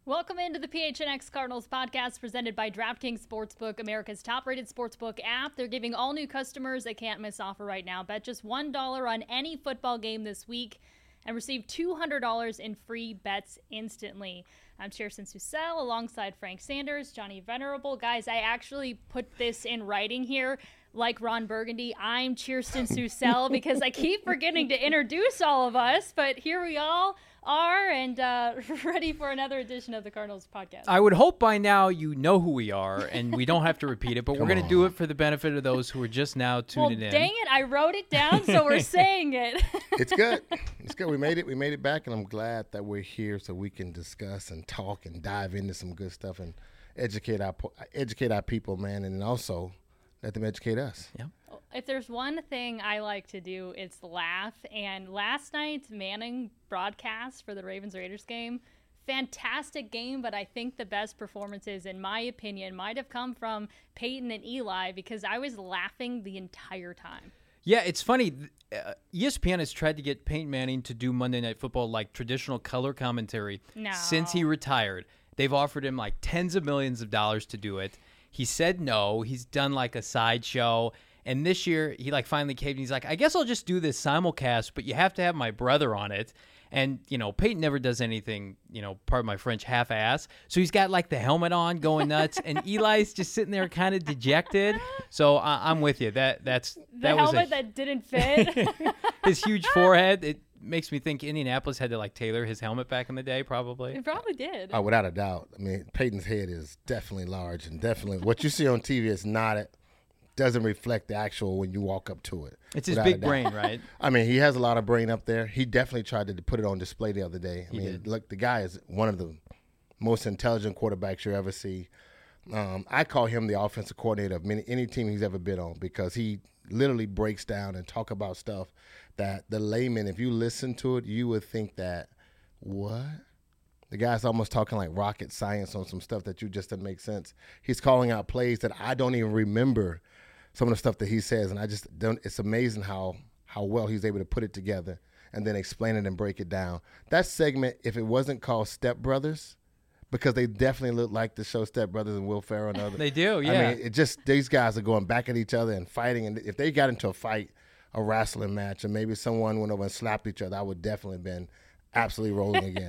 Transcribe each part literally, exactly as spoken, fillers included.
Welcome into the P H N X Cardinals podcast presented by DraftKings Sportsbook, America's top-rated sportsbook app. They're giving all new customers a can't-miss offer right now. Bet just one dollar on any football game this week and receive two hundred dollars in free bets instantly. I'm Kirsten Susel alongside Frank Sanders, Johnny Venerable. Guys, I actually put this in writing here. Like Ron Burgundy, I'm Kirsten Susel because I keep forgetting to introduce all of us, but here we all are and uh, ready for another edition of the Cardinals podcast. I would hope by now you know who we are and we don't have to repeat it, but we're going to do it for the benefit of those who are just now tuning well, in. Dang it, I wrote it down, so we're saying it. It's good. It's good. We made it. We made it back, and I'm glad that we're here so we can discuss and talk and dive into some good stuff and educate our educate our people, man, and also let them educate us. Yeah. If there's one thing I like to do, it's laugh. And last night's Manning broadcast for the Ravens-Raiders game, fantastic game, but I think the best performances, in my opinion, might have come from Peyton and Eli because I was laughing the entire time. Yeah, it's funny. Uh, E S P N has tried to get Peyton Manning to do Monday Night Football like traditional color commentary no. since he retired. They've offered him like tens of millions of dollars to do it. He said no. He's done like a sideshow. And this year, he like finally caved and he's like, I guess I'll just do this simulcast, but you have to have my brother on it. And, you know, Peyton never does anything, you know, pardon my French, half-ass. So he's got like the helmet on going nuts. And Eli's just sitting there kind of dejected. So uh, I'm with you. That that's The that helmet was a, that didn't fit. his huge forehead. It makes me think Indianapolis had to like tailor his helmet back in the day, probably. It probably did. Oh, without a doubt. I mean, Peyton's head is definitely large and definitely what you see on T V is not it. Doesn't reflect the actual when you walk up to it. It's his big brain, right? I mean, he has a lot of brain up there. He definitely tried to put it on display the other day. I He mean, did. look, the guy is one of the most intelligent quarterbacks you ever see. Um, I call him the offensive coordinator of many, any team he's ever been on because he literally breaks down and talk about stuff that the layman, if you listen to it, you would think that, what? The guy's almost talking like rocket science on some stuff that you just doesn't make sense. He's calling out plays that I don't even remember some of the stuff that he says, and I just don't. It's amazing how how well he's able to put it together and then explain it and break it down. That segment, if it wasn't called Step Brothers, because they definitely look like the show Step Brothers and Will Ferrell and others. They do, yeah. I mean, it just these guys are going back at each other and fighting, and if they got into a fight, a wrestling match, and maybe someone went over and slapped each other, I would definitely have been absolutely rolling again.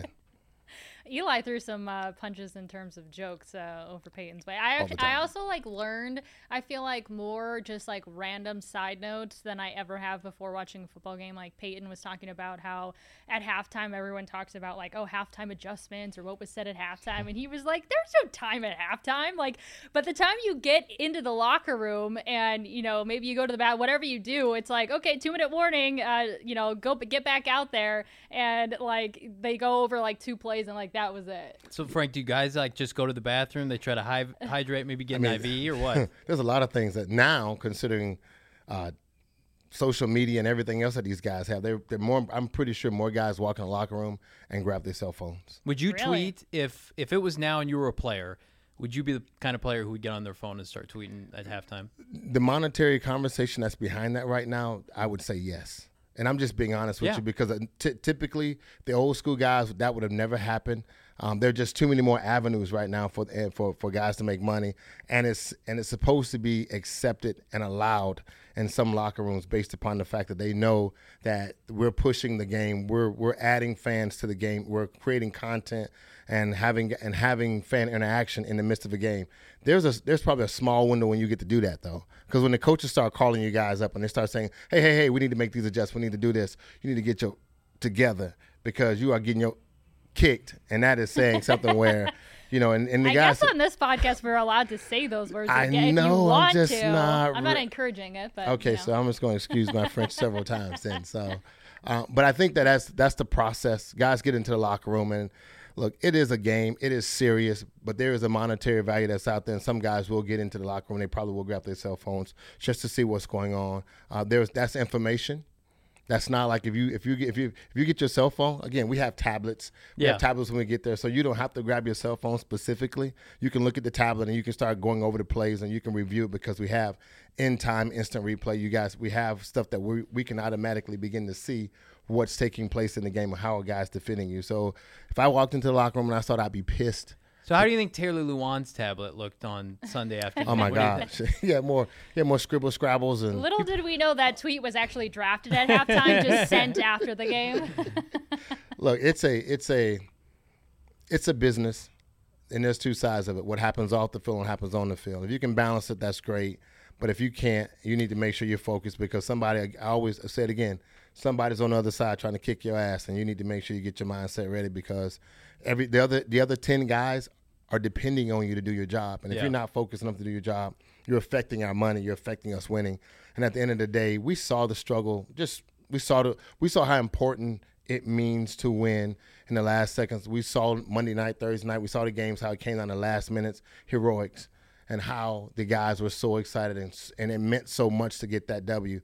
Eli threw some uh, punches in terms of jokes uh, over Peyton's way. I All the I time. also like learned, I feel like, more just like random side notes than I ever have before watching a football game. Like Peyton was talking about how at halftime everyone talks about like, oh, halftime adjustments or what was said at halftime. And he was like, there's no time at halftime. Like, but the time you get into the locker room and, you know, maybe you go to the bat, whatever you do, it's like, okay, two minute warning, uh, you know, go get back out there. And like they go over like two plays and like, that was it. So, Frank, do you guys like just go to the bathroom? They try to hy- hydrate, maybe get I mean, an I V or what? There's a lot of things that now, considering uh, social media and everything else that these guys have, they're, they're more. I'm pretty sure more guys walk in the locker room and grab their cell phones. Would you Really? tweet if if it was now and you were a player? Would you be the kind of player who would get on their phone and start tweeting at halftime? The monetary conversation that's behind that right now, I would say yes. And I'm just being honest with Yeah. you because uh, t- typically the old school guys, that would have never happened. Um, there are just too many more avenues right now for uh, for for guys to make money, and it's and it's supposed to be accepted and allowed in some locker rooms based upon the fact that they know that we're pushing the game, we're we're adding fans to the game, we're creating content and having and having fan interaction in the midst of a game. There's a there's probably a small window when you get to do that though, because when the coaches start calling you guys up and they start saying, hey hey hey, we need to make these adjustments, we need to do this, you need to get your together because you are getting your kicked, and that is saying something where, you know, and, and the I guys. guess on this podcast we're allowed to say those words I again if you know, I'm want just to. not I'm not re- encouraging it, but Okay, you know. so I'm just going to excuse my French several times then. So, uh, but I think that that's that's the process. Guys get into the locker room and look, it is a game, it is serious, but there is a monetary value that's out there. And some guys will get into the locker room, they probably will grab their cell phones just to see what's going on. Uh, there's that's information. That's not like if you if you get if you if you get your cell phone, again, we have tablets. We Yeah. have tablets when we get there. So you don't have to grab your cell phone specifically. You can look at the tablet and you can start going over the plays and you can review it because we have in time instant replay. You guys, we have stuff that we we can automatically begin to see what's taking place in the game or how a guy's defending you. So if I walked into the locker room and I thought I'd be pissed. So how do you think Taylor Lewan's tablet looked on Sunday afternoon? Oh, my What do you gosh. he had more he had more scribble scrabbles. And Little did we know that tweet was actually drafted at halftime, just sent after the game. Look, it's a it's a it's a business, and there's two sides of it. What happens off the field and happens on the field. If you can balance it, that's great. But if you can't, you need to make sure you're focused, because somebody, I always say it again, somebody's on the other side trying to kick your ass, and you need to make sure you get your mindset ready, because every the other the other ten guys are depending on you to do your job. And if Yeah. you're not focused enough to do your job, you're affecting our money, you're affecting us winning. And at the end of the day, we saw the struggle. Just we saw the we saw how important it means to win in the last seconds. We saw Monday night, Thursday night, we saw the games, how it came down to last minutes heroics, and how the guys were so excited, and and it meant so much to get that W.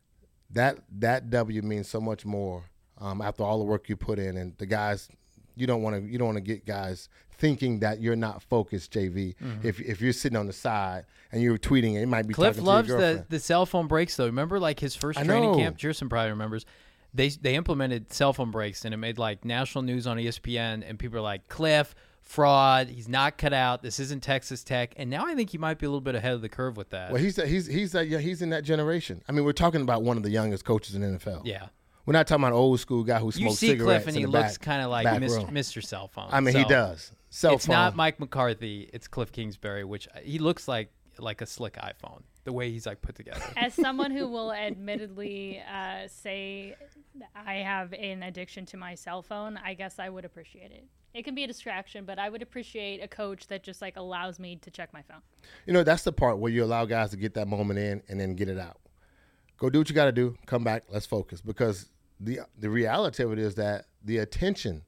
That that W means so much more um, after all the work you put in, and the guys. You don't want to. You don't want to get guys thinking that you're not focused, J V. Mm-hmm. If if you're sitting on the side and you're tweeting, it might be. Cliff talking loves to your girlfriend. the the cell phone breaks though. Remember, like his first I training know. camp. Jerson probably remembers. They they implemented cell phone breaks, and it made like national news on E S P N. And people are like, Cliff, fraud. He's not cut out. This isn't Texas Tech. And now I think he might be a little bit ahead of the curve with that. Well, he's he's he's uh, yeah, he's in that generation. I mean, we're talking about one of the youngest coaches in the N F L. Yeah. We're not talking about an old school guy who You smokes see cigarettes Cliff, and in he the looks back- kind of like back Mister room. Mister Cell Phone. I mean, he So, does. Cell It's phone. not Mike McCarthy. It's Cliff Kingsbury, which he looks like like a slick iPhone. The way he's like put together. As someone who will admittedly uh, say I have an addiction to my cell phone, I guess I would appreciate it. It can be a distraction, but I would appreciate a coach that just like allows me to check my phone. You know, that's the part where you allow guys to get that moment in and then get it out. Go do what you got to do. Come back. Let's focus, because the the reality of it is that the attention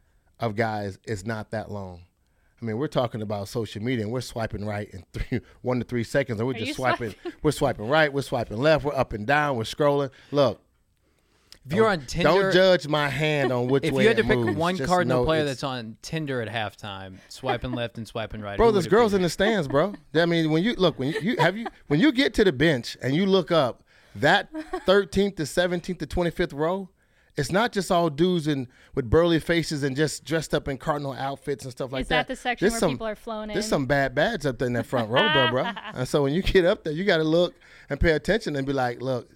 of guys is not that long. I mean, we're talking about social media, and we're swiping right in three, one to three seconds, and we're Are just you swiping. swiping? We're swiping right. We're swiping left. We're up and down. We're scrolling. Look, If you're don't- on Tinder, don't judge my hand on which if way you had to it pick moves. one Just Cardinal know player it's- that's on Tinder at halftime, swiping left and swiping right, Bro, who there's would it girls be? in the stands, bro. I mean, when you look, when you, you have you when you get to the bench and you look up, that thirteenth to seventeenth to twenty-fifth row, it's not just all dudes in with burly faces and just dressed up in Cardinal outfits and stuff like Is that. that the section There's where some, people are flown in? There's some bad bads up there in that front row, bro, bro. And so when you get up there, you got to look and pay attention and be like, look,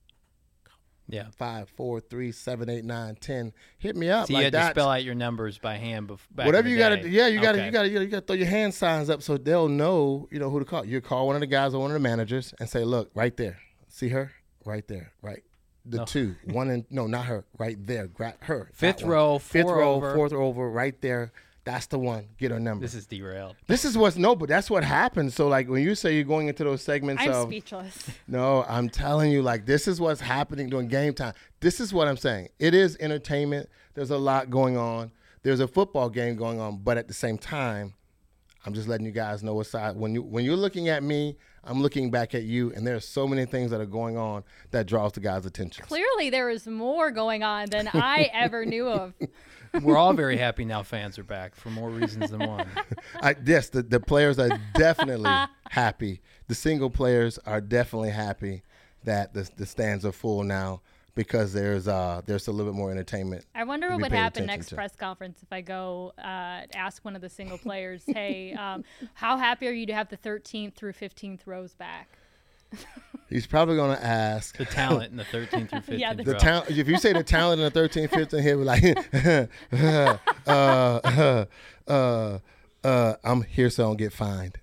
Yeah. five, four, three, seven, eight, nine, ten. Hit me up So you like had to that. spell out your numbers by hand. Bef- back Whatever in you the got day. to, yeah, you got to, Okay. you got to, you got to throw your hand signs up so they'll know, you know, who to call. You call one of the guys or one of the managers and say, "Look, right there, see her, right there, right, the No. two, one and no, not her, right there, grab her, that Fifth one. row, fifth four row, over. fourth row over, right there. That's the one. Get her number. This is derailed. This is what's no, but that's what happens. So like when you say you're going into those segments I'm of speechless. no, I'm telling you, like, this is what's happening during game time. This is what I'm saying. It is entertainment. There's a lot going on. There's a football game going on, but at the same time, I'm just letting you guys know what side. When you when you're looking at me, I'm looking back at you, and there's so many things that are going on that draws the guys' attention. Clearly, there is more going on than I ever knew of. We're all very happy now fans are back for more reasons than one. I, yes, the, the players are definitely happy. The single players are definitely happy that the the stands are full now, because there's uh there's a little bit more entertainment. I wonder to what be would paid happen attention next to. press conference if I go uh, ask one of the single players, hey, um, how happy are you to have the thirteenth through fifteenth rows back? He's probably going to ask The talent in the thirteenth through fifteenth Yeah, the the row. talent. If you say the talent in the thirteen, fifteen, he'll be like, uh, uh, uh, uh, I'm here so I don't get fined.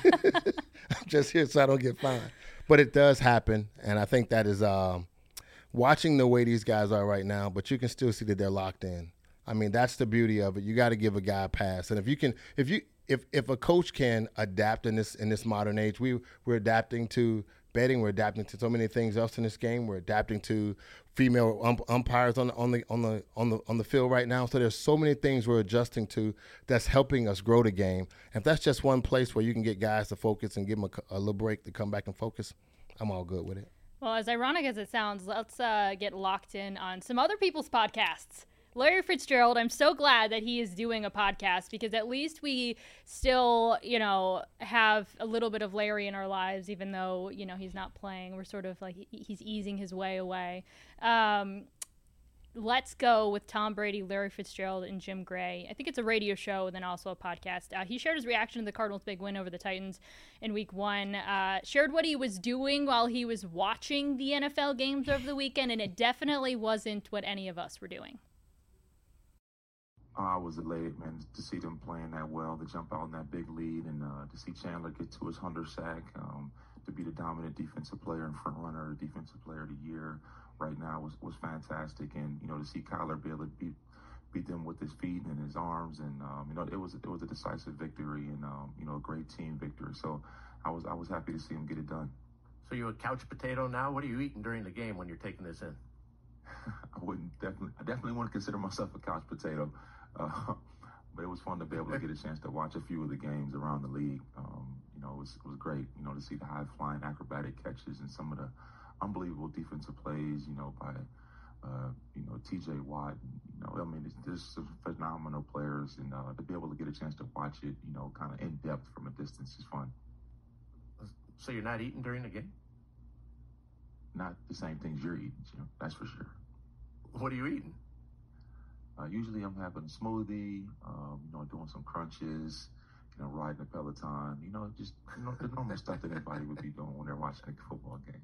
I'm just here so I don't get fined. But it does happen, and I think that is um, watching the way these guys are right now, but you can still see that they're locked in. I mean, that's the beauty of it. You got to give a guy a pass, and if you can, if you, if if a coach can adapt in this in this modern age, we we're adapting to betting, we're adapting to so many things else in this game. We're adapting to female um, umpires on the on the on the on the on the field right now. So there's so many things we're adjusting to that's helping us grow the game. And if that's just one place where you can get guys to focus and give them a, a little break to come back and focus, I'm all good with it. Well, as ironic as it sounds, let's uh, get locked in on some other people's podcasts. Larry Fitzgerald, I'm so glad that he is doing a podcast, because at least we still, you know, have a little bit of Larry in our lives, even though, you know, he's not playing. We're sort of like, he's easing his way away. Um, Let's Go with Tom Brady, Larry Fitzgerald, and Jim Gray. I think it's a radio show and then also a podcast. Uh, he shared his reaction to the Cardinals' big win over the Titans in week one, uh, shared what he was doing while he was watching the N F L games over the weekend, and it definitely wasn't what any of us were doing. I was elated, man, to see them playing that well, to jump out in that big lead, and uh, to see Chandler get to his hundredth sack, um, to be the dominant defensive player and front runner, defensive player of the year right now was, was fantastic. And, you know, to see Kyler be able to beat, beat them with his feet and his arms, and, um, you know, it was it was a decisive victory and, um, you know, a great team victory. So I was I was happy to see him get it done. So you're a couch potato now? What are you eating during the game when you're taking this in? I wouldn't definitely I definitely want to consider myself a couch potato. Uh, but it was fun to be able to get a chance to watch a few of the games around the league. Um, you know, it was, it was great, you know, to see the high-flying acrobatic catches and some of the unbelievable defensive plays, you know, by, uh, you know, T J Watt. You know, I mean, there's some phenomenal players, and uh, to be able to get a chance to watch it, you know, kind of in depth from a distance is fun. So you're not eating during the game? Not the same things you're eating, you know, that's for sure. What are you eating? Uh, usually I'm having a smoothie, um, you know, doing some crunches, you know, riding a Peloton, you know, just you know, the normal stuff that anybody would be doing when they're watching a football game.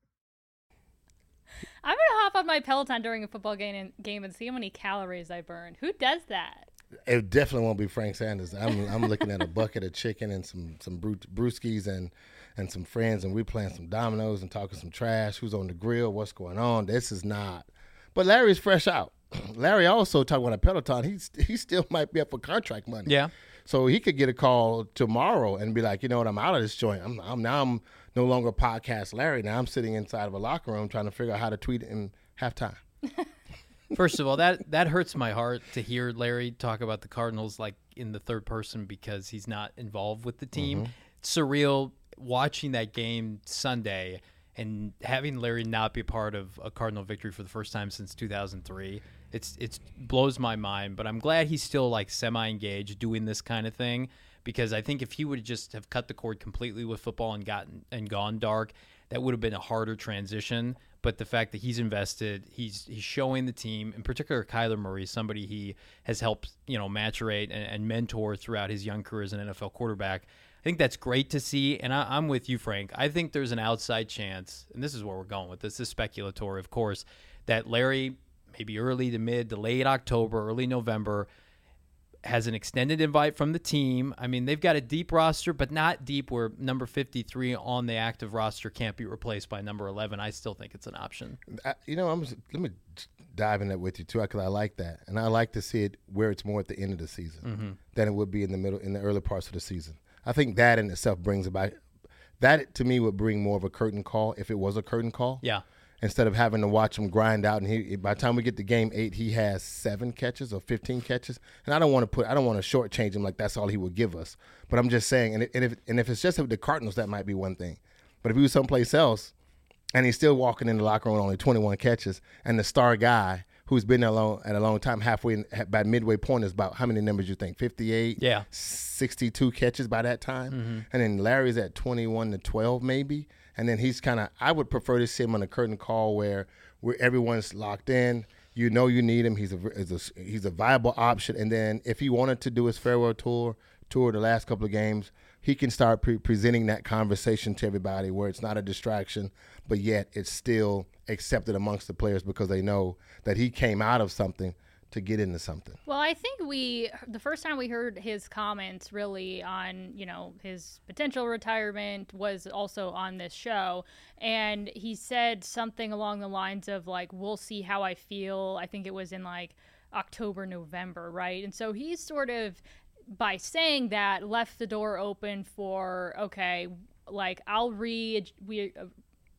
I'm going to hop on my Peloton during a football game and, game and see how many calories I burn. Who does that? It definitely won't be Frank Sanders. I'm I'm looking at a bucket of chicken and some some bru- brewskis and and some friends, and we're playing some dominoes and talking some trash. Who's on the grill? What's going on? This is not. But Larry's fresh out. Larry also talking about a Peloton. He's he still might be up for contract money. Yeah. So he could get a call tomorrow and be like, you know what, I'm out of this joint. I'm, I'm now I'm no longer podcast Larry. Now I'm sitting inside of a locker room trying to figure out how to tweet in halftime. First of all, that that hurts my heart to hear Larry talk about the Cardinals like in the third person because he's not involved with the team. Mm-hmm. It's surreal watching that game Sunday and having Larry not be part of a Cardinal victory for the first time since two thousand three. It's it's blows my mind, but I'm glad he's still like semi-engaged doing this kind of thing because I think if he would just have cut the cord completely with football and gotten and gone dark, that would have been a harder transition. But the fact that he's invested, he's he's showing the team, in particular Kyler Murray, somebody he has helped you know maturate and, and mentor throughout his young career as an N F L quarterback. I think that's great to see, and I, I'm with you, Frank. I think there's an outside chance, and this is where we're going with this. This is speculatory, of course, that Larry, maybe early to mid to late October, early November, has an extended invite from the team. I mean, they've got a deep roster, but not deep where number fifty-three on the active roster can't be replaced by number eleven. I still think it's an option. I, you know, I'm let me dive in that with you too, because I like that, and I like to see it where it's more at the end of the season mm-hmm. than it would be in the middle, in the early parts of the season. I think that in itself brings about that to me would bring more of a curtain call if it was a curtain call. Yeah. Instead of having to watch him grind out, and he by the time we get to game eight, he has seven catches or fifteen catches, and I don't want to put, I don't want to shortchange him like that's all he would give us. But I'm just saying, and, it, and if and if it's just the Cardinals, that might be one thing. But if he was someplace else, and he's still walking in the locker room with only twenty-one catches, and the star guy who's been there long, at a long time, halfway in, by midway point is about how many numbers you think? fifty-eight, yeah, sixty-two catches by that time, mm-hmm. and then Larry's at twenty-one to twelve maybe. And then he's kind of, I would prefer to see him on a curtain call where where everyone's locked in. You know you need him. He's a, he's a, he's a viable option. And then if he wanted to do his farewell tour, tour the last couple of games, he can start pre- presenting that conversation to everybody where it's not a distraction, but yet it's still accepted amongst the players because they know that he came out of something to get into something. Well, I think we, the first time we heard his comments really on, you know, his potential retirement was also on this show. And he said something along the lines of like, we'll see how I feel. I think it was in like October, November, right? And so he's sort of, by saying that, left the door open for, okay, like I'll read, we, uh,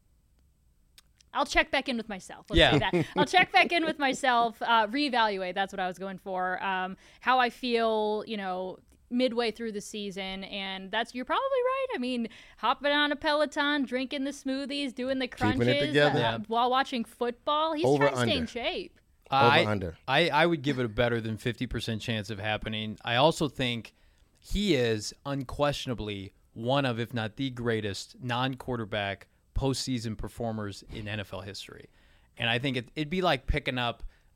I'll check back in with myself. Let's yeah. say that. I'll check back in with myself, uh, reevaluate. That's what I was going for. Um, how I feel, you know, midway through the season. And that's, you're probably right. I mean, hopping on a Peloton, drinking the smoothies, doing the crunches Keeping it together. uh, Yeah. while watching football. He's Over, trying to stay in under. shape. I, Over under. I, I would give it a better than fifty percent chance of happening. I also think he is unquestionably one of, if not the greatest, non-quarterback postseason performers in N F L history. And I think it, it'd be like picking up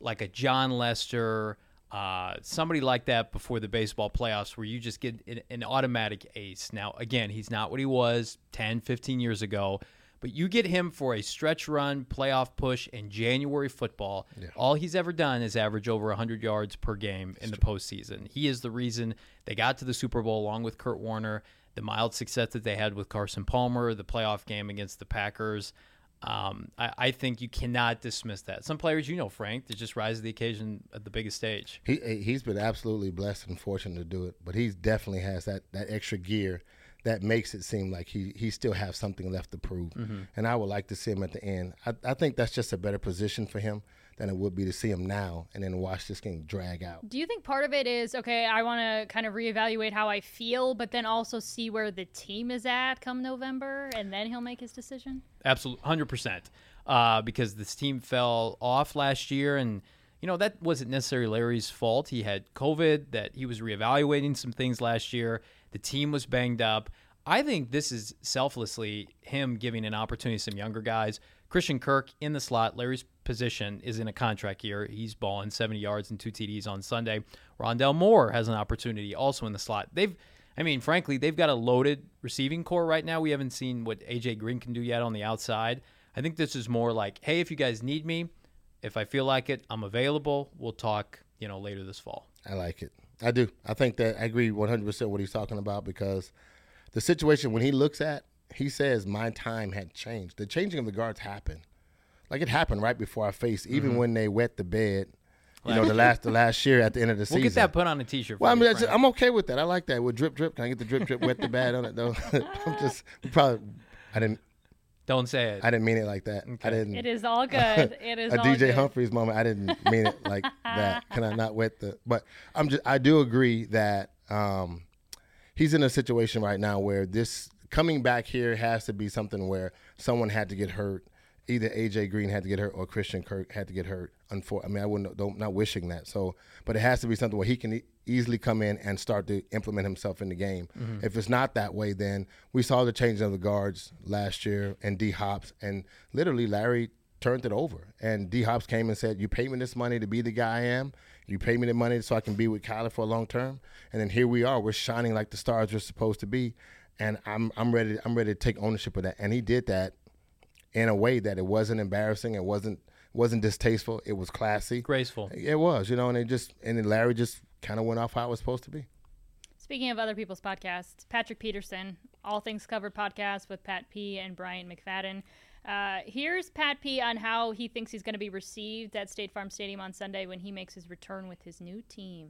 like a John Lester, uh, somebody like that before the baseball playoffs where you just get an, an automatic ace. Now, again, he's not what he was ten, fifteen years ago, but you get him for a stretch run, playoff push, in January football. Yeah. All he's ever done is average over one hundred yards per game in the postseason. He is the reason they got to the Super Bowl along with Kurt Warner, the mild success that they had with Carson Palmer, the playoff game against the Packers. Um, I, I think you cannot dismiss that. Some players, you know, Frank, they just rise to the occasion at the biggest stage. He he's been absolutely blessed and fortunate to do it, but he definitely has that, that extra gear that makes it seem like he he still has something left to prove. Mm-hmm. And I would like to see him at the end. I, I think that's just a better position for him than it would be to see him now and then watch this game drag out. Do you think part of it is, okay, I want to kind of reevaluate how I feel, but then also see where the team is at come November, and then he'll make his decision? Absolutely, one hundred percent. Uh, because this team fell off last year, and, you know, that wasn't necessarily Larry's fault. He had COVID, that he was reevaluating some things last year. The team was banged up. I think this is selflessly him giving an opportunity to some younger guys. Christian Kirk in the slot. Larry's position is in a contract year. He's balling seventy yards and two T Ds on Sunday. Rondell Moore has an opportunity also in the slot. They've, I mean, frankly, they've got a loaded receiving core right now. We haven't seen what A J Green can do yet on the outside. I think this is more like, hey, if you guys need me, if I feel like it, I'm available. We'll talk, you know, later this fall. I like it. I do. I think that I agree one hundred percent what he's talking about, because the situation when he looks at, he says my time had changed. The changing of the guards happened. Like it happened right before our face, even mm-hmm. when they wet the bed, you last know, the last the last year at the end of the we'll season. We'll get that put on a T-shirt. Well, I mean, you, I'm okay with that. I like that. With drip, drip. Can I get the drip, drip, wet the bed on it, though? I'm just probably, I didn't. Don't say it. I didn't mean it like that. Okay. I didn't. It is all good. It is a all D J good. Humphries moment. I didn't mean it like that. Can I not wet the? But I'm just. I do agree that um, he's in a situation right now where this coming back here has to be something where someone had to get hurt. Either A J Green had to get hurt or Christian Kirk had to get hurt. Unfor- I mean, I wouldn't. Don't, not wishing that. So, but it has to be something where he can e- easily come in and start to implement himself in the game. Mm-hmm. If it's not that way, then we saw the changing of the guards last year and D Hops, and literally Larry turned it over. And D Hops came and said, "You pay me this money to be the guy I am. You pay me the money so I can be with Kyler for a long term." And then here we are. We're shining like the stars we're supposed to be. And I'm I'm ready. I'm ready to take ownership of that. And he did that in a way that it wasn't embarrassing. It wasn't wasn't distasteful. It was classy, graceful. It was, you know. And it just and then Larry just kind of went off how it was supposed to be. Speaking of other people's podcasts, Patrick Peterson, All Things Covered podcast with Pat P and Brian McFadden. Uh, here's Pat P on how he thinks he's going to be received at State Farm Stadium on Sunday when he makes his return with his new team.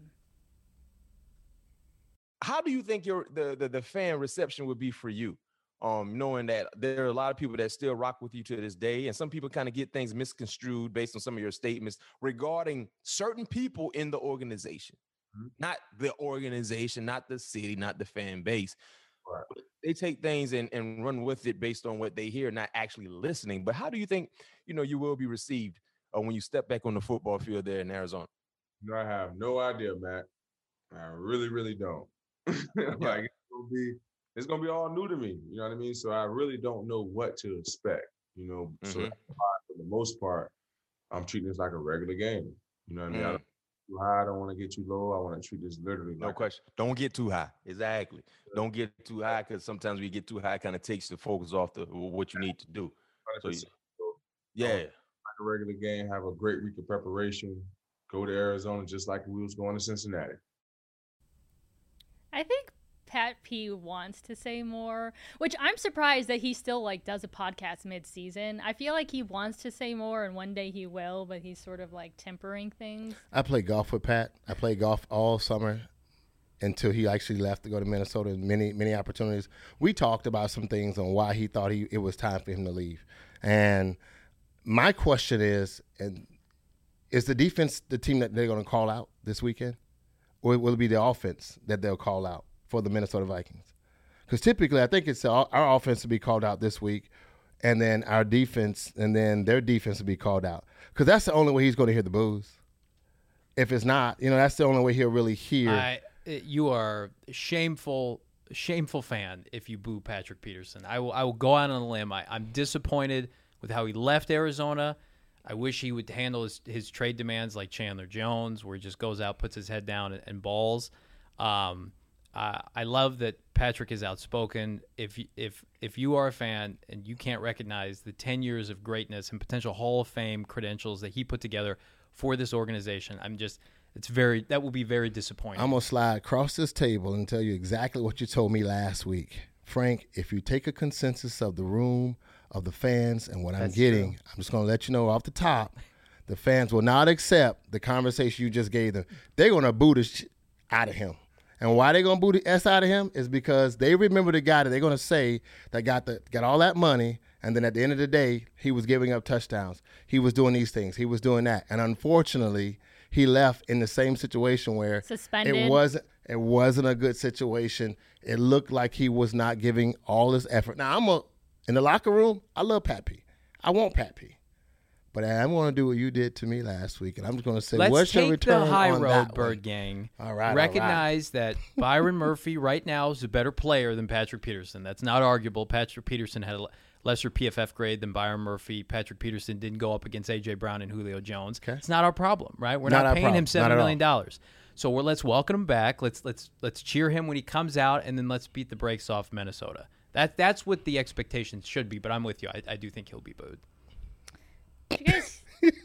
How do you think your the, the the fan reception would be for you, um, knowing that there are a lot of people that still rock with you to this day, and some people kind of get things misconstrued based on some of your statements regarding certain people in the organization, mm-hmm. not the organization, not the city, not the fan base. Right. They take things and, and run with it based on what they hear, not actually listening. But how do you think, you know, you will be received uh, when you step back on the football field there in Arizona? No, I have no idea, Matt. I really, really don't. Like it's gonna be, it's gonna be all new to me. You know what I mean? So I really don't know what to expect. You know, mm-hmm. so for the most part, I'm treating this like a regular game. You know what I mean? Mm. I don't get too high. I don't want to get too low. I want to treat this literally. No like question. Don't get too high. Exactly. Yeah. Don't get too high, because sometimes we get too high, kind of takes the focus off the what you need to do. So, you, yeah, um, like a regular game. Have a great week of preparation. Go to Arizona just like we was going to Cincinnati. I think Pat P wants to say more, which I'm surprised that he still like does a podcast mid-season. I feel like he wants to say more, and one day he will, but he's sort of like tempering things. I play golf with Pat. I played golf all summer until he actually left to go to Minnesota. Many, many opportunities. We talked about some things on why he thought he it was time for him to leave. And my question is, and is the defense the team that they're going to call out this weekend? Or will it be the offense that they'll call out for the Minnesota Vikings? Because typically, I think it's our, our offense will be called out this week, and then our defense, and then their defense will be called out. Because that's the only way he's going to hear the boos. If it's not, you know, that's the only way he'll really hear. I, you are a shameful, shameful fan if you boo Patrick Peterson. I will, I will go out on a limb. I, I'm disappointed with how he left Arizona. I wish he would handle his, his trade demands like Chandler Jones, where he just goes out, puts his head down, and, and balls. Um, uh, I love that Patrick is outspoken. If if if you are a fan and you can't recognize the ten years of greatness and potential Hall of Fame credentials that he put together for this organization, I'm just it's very that will be very disappointing. I'm gonna slide across this table and tell you exactly what you told me last week, Frank. If you take a consensus of the room, of the fans, and what I'm That's getting, true. I'm just going to let you know off the top, the fans will not accept the conversation you just gave them. They're going to boo the shit out of him. And why they're going to boo the S out of him is because they remember the guy that they're going to say that got the got all that money, and then at the end of the day, he was giving up touchdowns. He was doing these things. He was doing that. And unfortunately, he left in the same situation where Suspended. it wasn't it wasn't a good situation. It looked like he was not giving all his effort. Now, I'm a In the locker room, I love Pat P. I want Pat P. But I'm going to do what you did to me last week, and I'm just going to say, Let's what's your take return the high on road, that Bird one? Gang. All right, all Recognize that Byron Murphy right now is a better player than Patrick Peterson. That's not arguable. Patrick Peterson had a lesser P F F grade than Byron Murphy. Patrick Peterson didn't go up against A J. Brown and Julio Jones. Okay. It's not our problem, right? We're Not not, our paying problem. him Not seven at million dollars. So we're let's welcome him back. Let's let's let's cheer him when he comes out, and then let's beat the brakes off Minnesota. That that's what the expectations should be. But I'm with you. I, I do think he'll be booed. You guys,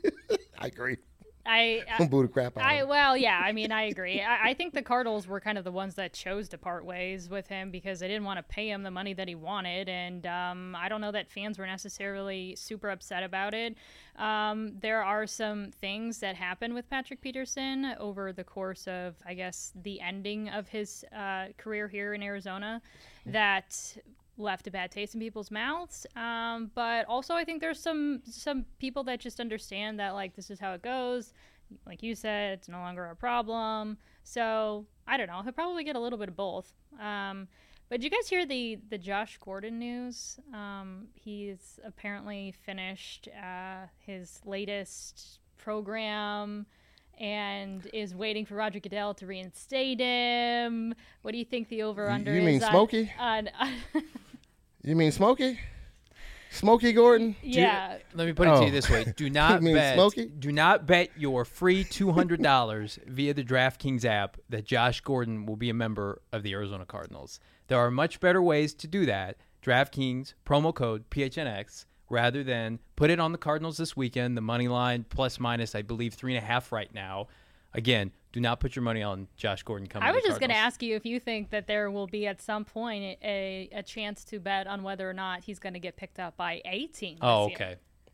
I agree. I, I Don't boo the crap out I of him. well, yeah. I mean, I agree. I, I think the Cardinals were kind of the ones that chose to part ways with him because they didn't want to pay him the money that he wanted, and um, I don't know that fans were necessarily super upset about it. Um, there are some things that happened with Patrick Peterson over the course of, I guess, the ending of his uh, career here in Arizona that left a bad taste in people's mouths. Um, but also I think there's some some people that just understand that, like, this is how it goes. Like you said, it's no longer a problem. So I don't know. He'll probably get a little bit of both. Um, but did you guys hear the, the Josh Gordon news? Um, he's apparently finished uh, his latest program and is waiting for Roger Goodell to reinstate him. What do you think the over-under You is? mean on- Smokey? On, on You mean Smokey? Smokey Gordon? yeah. Let me put it to Oh. you this way: Do not mean bet. Smokey? Do not bet your free two hundred dollars via the DraftKings app that Josh Gordon will be a member of the Arizona Cardinals. There are much better ways to do that. DraftKings promo code P H N X rather than put it on the Cardinals this weekend. The money line plus minus, I believe, three and a half right now. Again, do not put your money on Josh Gordon coming. I was to the just going to Cardinals. ask you if you think that there will be at some point a, a chance to bet on whether or not he's going to get picked up by a team. This Oh, year. okay.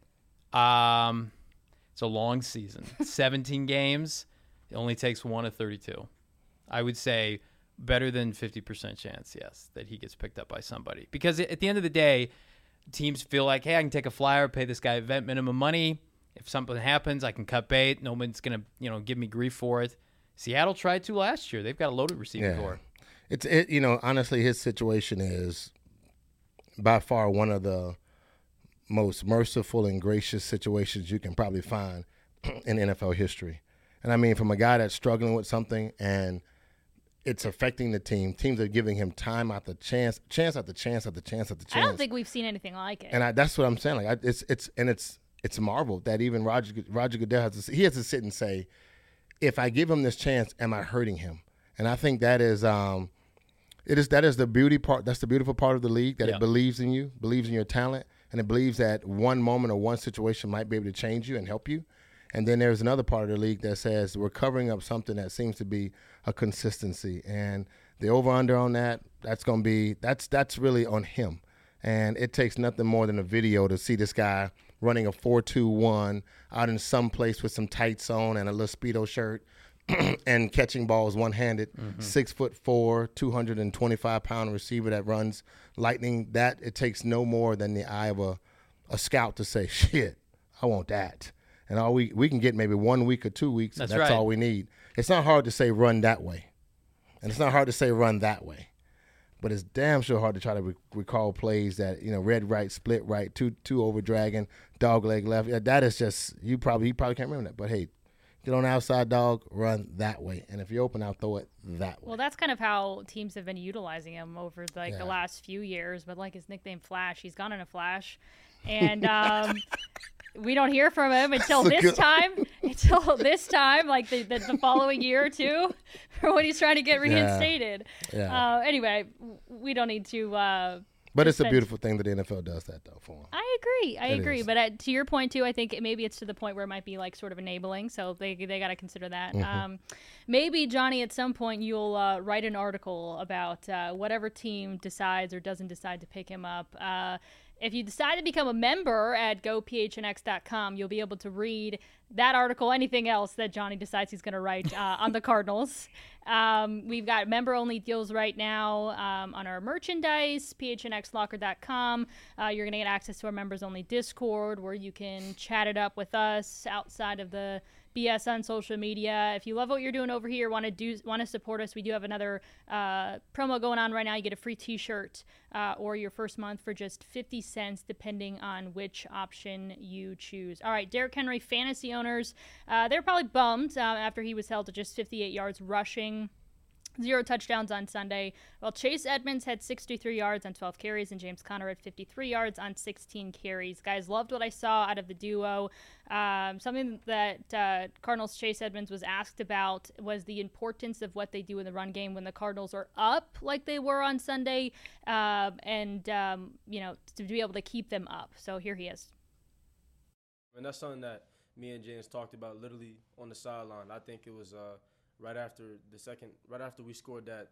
Um, it's a long season, seventeen games. It only takes one of thirty-two. I would say better than fifty percent chance, yes, that he gets picked up by somebody. Because at the end of the day, teams feel like, hey, I can take a flyer, pay this guy vet minimum money. If something happens, I can cut bait. No one's gonna, you know, give me grief for it. Seattle tried to last year. They've got a loaded receiving Yeah. core. It's it. You know, honestly, his situation is by far one of the most merciful and gracious situations you can probably find in N F L history. And I mean, from a guy that's struggling with something and it's affecting the team, teams are giving him time after chance, chance after chance after chance after chance. I don't think we've seen anything like it. And I, that's what I'm saying. Like, I, it's it's and it's it's marveled that even Roger Roger Goodell has to he has to sit and say, if I give him this chance, am I hurting him? And I think that is um, it is that is the beauty part. That's the beautiful part of the league, that Yeah. it believes in you, believes in your talent, and it believes that one moment or one situation might be able to change you and help you. And then there's another part of the league that says we're covering up something that seems to be a consistency. And the over-under on that, that's going to be that's that's really on him. And it takes nothing more than a video to see this guy running a four two one out in some place with some tights on and a little Speedo shirt and catching balls one-handed, Mm-hmm. six foot four, two hundred twenty-five pound receiver that runs lightning. That it takes no more than the eye of a, a scout to say, shit, I want that. And all we we can get maybe one week or two weeks. That's and that's right. all we need. It's not hard to say run that way, and it's not hard to say run that way. But it's damn sure hard to try to re- recall plays that, you know, red right, split right, two two over dragon, dog leg left. Yeah, that is just you probably you probably can't remember that. But hey, get on the outside dog, run that way, and if you're open, I'll throw it that way. Well, that's kind of how teams have been utilizing him over like Yeah. the last few years. But like his nickname Flash, he's gone in a flash, and um, we don't hear from him until this good. time, until this time, like the, the, the following year or two, for when he's trying to get reinstated. Yeah. Yeah. Uh, anyway, we don't need to. Uh, but it's a beautiful thing that the N F L does that, though, for him. I agree. I it agree. Is. But at, to your point, too, I think maybe it's to the point where it might be like sort of enabling. So they they got to consider that. Mm-hmm. Um, maybe, Johnny, at some point you'll uh, write an article about uh, whatever team decides or doesn't decide to pick him up. Uh, If you decide to become a member at go p h n x dot com, you'll be able to read that article, anything else that Johnny decides he's going to write uh, on the Cardinals. Um, we've got member-only deals right now um, on our merchandise, p h n x locker dot com. Uh, you're going to get access to our members-only Discord where you can chat it up with us outside of the B S on social media. If you love what you're doing over here, want to do want to support us, we do have another uh, promo going on right now. You get a free t-shirt uh, or your first month for just fifty cents, depending on which option you choose. All right, Derrick Henry fantasy owners, uh, they're probably bummed uh, after he was held to just fifty-eight yards rushing. Zero touchdowns on Sunday. Well, Chase Edmonds had sixty-three yards on twelve carries, and James Conner had fifty-three yards on sixteen carries. Guys, loved what I saw out of the duo. Um, something that uh, Cardinals' Chase Edmonds was asked about was the importance of what they do in the run game when the Cardinals are up like they were on Sunday, uh, and, um, you know, to be able to keep them up. So here he is. And that's something that me and James talked about literally on the sideline. I think it was uh, – right after the second, right after we scored that,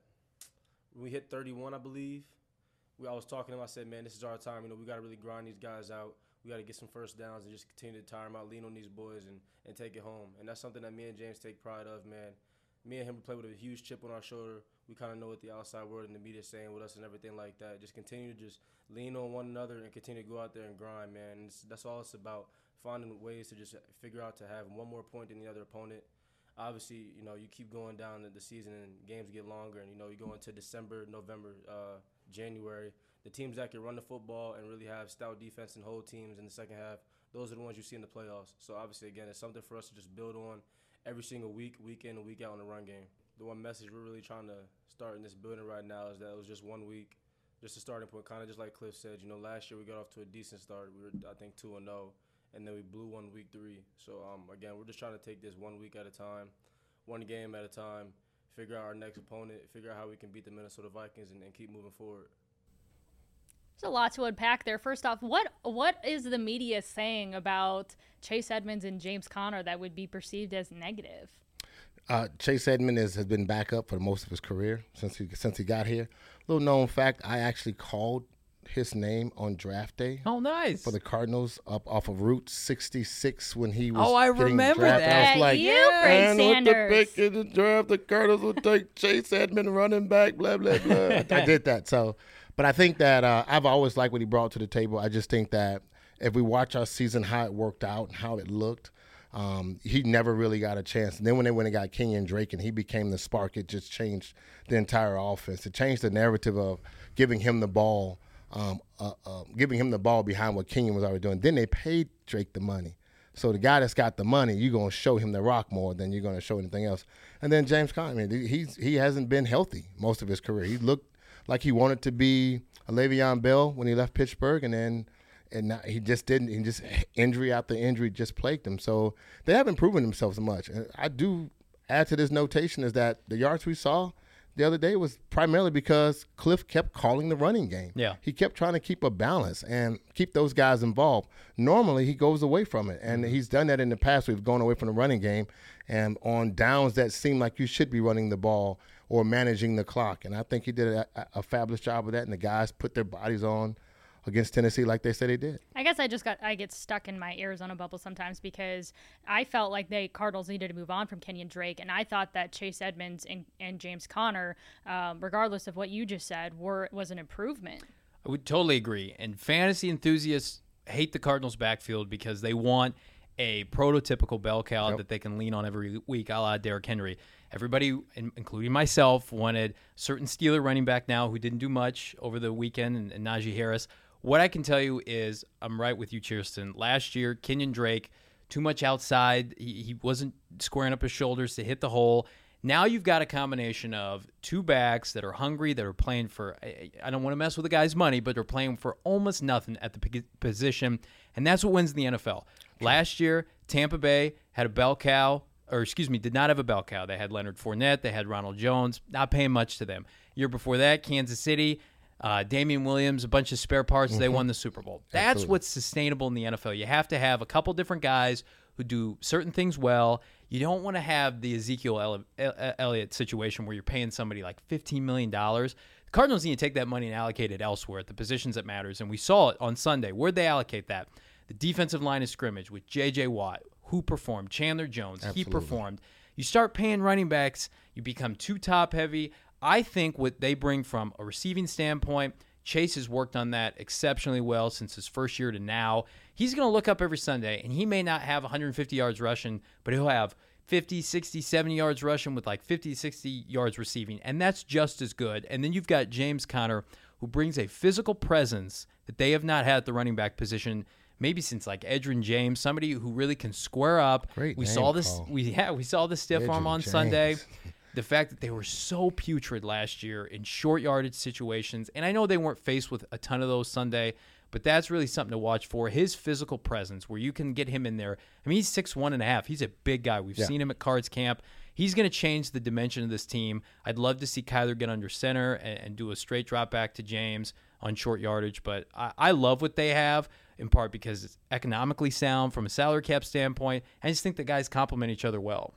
we hit thirty-one, I believe. We, I was talking to him. I said, man, this is our time. You know, we got to really grind these guys out. We got to get some first downs and just continue to tire them out, lean on these boys, and, and take it home. And that's something that me and James take pride of, man. Me and him play with a huge chip on our shoulder. We kind of know what the outside world and the media is saying with us and everything like that. Just continue to just lean on one another and continue to go out there and grind, man. And it's, that's all it's about, finding ways to just figure out to have one more point than the other opponent. Obviously, you know, you keep going down the season and games get longer, and, you know, you go into December, November, uh, January. The teams that can run the football and really have stout defense and hold teams in the second half, those are the ones you see in the playoffs. So, obviously, again, it's something for us to just build on every single week, week in and week out in the run game. The one message we're really trying to start in this building right now is that it was just one week, just a starting point, kind of just like Cliff said. You know, last year we got off to a decent start. We were, I think, two and oh. And then we blew one week three. So, um, again, we're just trying to take this one week at a time, one game at a time, figure out our next opponent, figure out how we can beat the Minnesota Vikings, and, and keep moving forward. There's a lot to unpack there. First off, what what is the media saying about Chase Edmonds and James Conner that would be perceived as negative? Uh, Chase Edmonds is, has been back up for most of his career since he since he got here. Little known fact, I actually called his name on draft day. Oh, nice. For the Cardinals up off of Route sixty-six when he was Oh, I getting remember drafted. that. I was like, You, Fred and Sanders. with the pick in the draft, the Cardinals will take Chase Edmonds running back, blah, blah, blah. I did that. So, but I think that uh, I've always liked what he brought to the table. I just think that if we watch our season, how it worked out and how it looked, um, he never really got a chance. And then when they went and got Kenyon Drake and he became the spark, it just changed the entire offense. It changed the narrative of giving him the ball Um, uh, uh, giving him the ball behind what Kenyon was already doing. Then they paid Drake the money. So the guy that's got the money, you're going to show him the rock more than you're going to show anything else. And then James Conner, I mean, he's, he hasn't been healthy most of his career. He looked like he wanted to be a Le'Veon Bell when he left Pittsburgh, and then and now he just didn't. He just injury after injury just plagued him. So they haven't proven themselves much. And I do add to this notation is that the yards we saw the other day was primarily because Cliff kept calling the running game. Yeah. He kept trying to keep a balance and keep those guys involved. Normally, he goes away from it, and he's done that in the past. We've gone away from the running game and on downs that seem like you should be running the ball or managing the clock. And I think he did a, a fabulous job of that, and the guys put their bodies on against Tennessee like they said they did. I guess I just got I get stuck in my Arizona bubble sometimes because I felt like the Cardinals needed to move on from Kenyon Drake, and I thought that Chase Edmonds and, and James Conner, um, regardless of what you just said, were was an improvement. I would totally agree. And fantasy enthusiasts hate the Cardinals' backfield because they want a prototypical bell cow Yep. that they can lean on every week, a la Derrick Henry. Everybody, including myself, wanted certain Steeler running back now who didn't do much over the weekend, and, and Najee Harris. What I can tell you is I'm right with you, Cheerston. Last year, Kenyon Drake, too much outside. He, he wasn't squaring up his shoulders to hit the hole. Now you've got a combination of two backs that are hungry, that are playing for, I don't want to mess with the guy's money, but they're playing for almost nothing at the position, and that's what wins in the N F L. Last year, Tampa Bay had a bell cow, or excuse me, did not have a bell cow. They had Leonard Fournette. They had Ronald Jones, not paying much to them. Year before that, Kansas City, uh, Damian Williams, a bunch of spare parts. Mm-hmm. They won the Super Bowl. That's Absolutely. What's sustainable in the N F L. You have to have a couple different guys who do certain things well. You don't want to have the Ezekiel Elliott situation where you're paying somebody like fifteen million dollars. The Cardinals need to take that money and allocate it elsewhere at the positions that matters, and we saw it on Sunday. Where'd they allocate that? The defensive line of scrimmage with J J. Watt, who performed. Chandler Jones, Absolutely. He performed. You start paying running backs, you become too top-heavy. I think what they bring from a receiving standpoint, Chase has worked on that exceptionally well since his first year to now. He's going to look up every Sunday, and he may not have one hundred fifty yards rushing, but he'll have fifty, sixty, seventy yards rushing with like fifty, sixty yards receiving, and that's just as good. And then you've got James Conner, who brings a physical presence that they have not had at the running back position maybe since like Edgerrin James, somebody who really can square up. Great we name, saw this. Paul. We yeah, we saw the stiff Edgerrin arm on James. Sunday. The fact that they were so putrid last year in short yardage situations, and I know they weren't faced with a ton of those Sunday, but that's really something to watch for. His physical presence, where you can get him in there. I mean, he's six one and a half. He's a big guy. We've Yeah. seen him at Cards Camp. He's going to change the dimension of this team. I'd love to see Kyler get under center and, and do a straight drop back to James on short yardage, but I, I love what they have, in part because it's economically sound from a salary cap standpoint. I just think the guys complement each other well.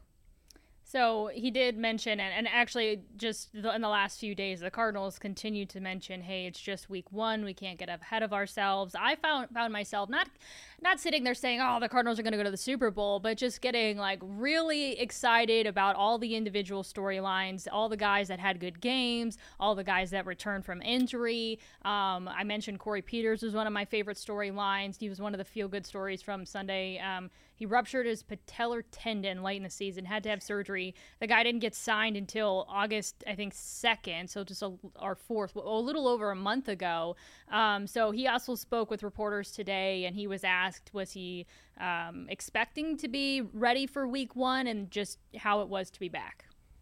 So he did mention, and, and actually just the, in the last few days, the Cardinals continue to mention, hey, it's just week one. We can't get ahead of ourselves. I found found myself not not sitting there saying, oh, the Cardinals are going to go to the Super Bowl, but just getting like really excited about all the individual storylines, all the guys that had good games, all the guys that returned from injury. Um, I mentioned Corey Peters was one of my favorite storylines. He was one of the feel-good stories from Sunday. Um, he ruptured his patellar tendon late in the season, had to have surgery. The guy didn't get signed until August, I think, second, so just a, our fourth, a little over a month ago. Um, so he also spoke with reporters today, and he was asked, was he um, expecting to be ready for week one, and just how it was to be back.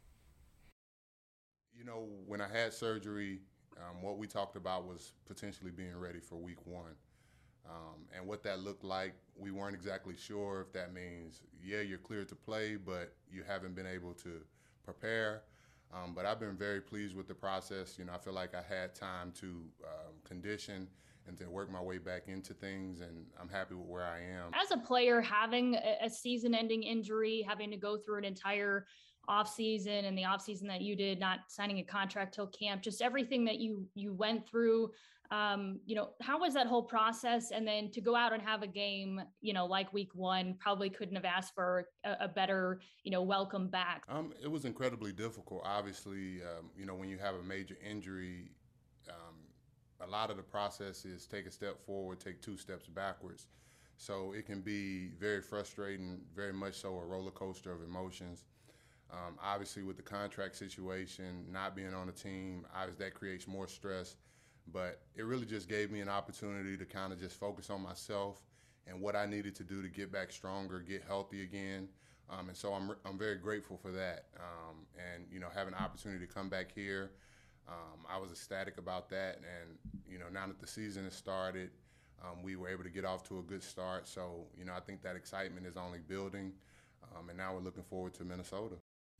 You know, when I had surgery, um, what we talked about was potentially being ready for week one. Um, and what that looked like, we weren't exactly sure if that means, yeah, you're cleared to play, but you haven't been able to prepare. Um, but I've been very pleased with the process. You know, I feel like I had time to um, condition and to work my way back into things, and I'm happy with where I am. As a player, having a season-ending injury, having to go through an entire offseason and the offseason that you did, not signing a contract till camp, just everything that you you went through, um, you know, how was that whole process? And then to go out and have a game, you know, like week one, probably couldn't have asked for a, a better, you know, welcome back. Um, it was incredibly difficult. Obviously, um, you know, when you have a major injury, um, a lot of the process is take a step forward, take two steps backwards. So it can be very frustrating, very much so a roller coaster of emotions. Um, obviously, with the contract situation, not being on the team, obviously that creates more stress. But it really just gave me an opportunity to kind of just focus on myself and what I needed to do to get back stronger, get healthy again. Um, and so I'm I'm very grateful for that. Um, and, you know, having an opportunity to come back here, um, I was ecstatic about that. And, you know, now that the season has started, um, we were able to get off to a good start. So, you know, I think that excitement is only building. Um, and now we're looking forward to Minnesota.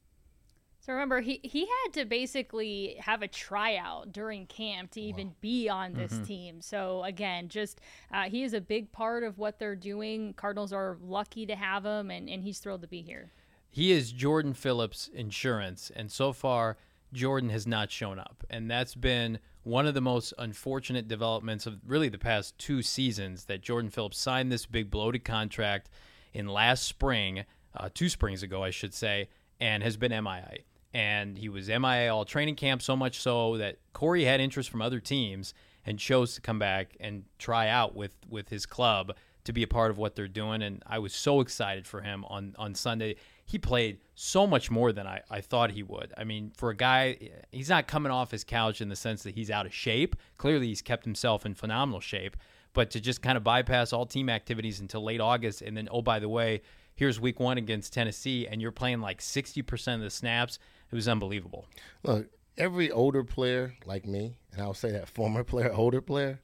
So remember, he, he had to basically have a tryout during camp to even wow. be on this mm-hmm. team. So again, just uh, he is a big part of what they're doing. Cardinals are lucky to have him, and, and he's thrilled to be here. He is Jordan Phillips' insurance, and so far Jordan has not shown up. And that's been one of the most unfortunate developments of really the past two seasons, that Jordan Phillips signed this big bloated contract in last spring, uh, two springs ago, I should say, and has been M I A. And he was M I A all training camp, so much so that Corey had interest from other teams and chose to come back and try out with, with his club to be a part of what they're doing. And I was so excited for him on, on Sunday. He played so much more than I, I thought he would. I mean, for a guy, he's not coming off his couch in the sense that he's out of shape. Clearly, he's kept himself in phenomenal shape. But to just kind of bypass all team activities until late August, and then, oh, by the way, here's week one against Tennessee, and you're playing like sixty percent of the snaps. It was unbelievable. Look, every older player like me, and I'll say that former player, older player,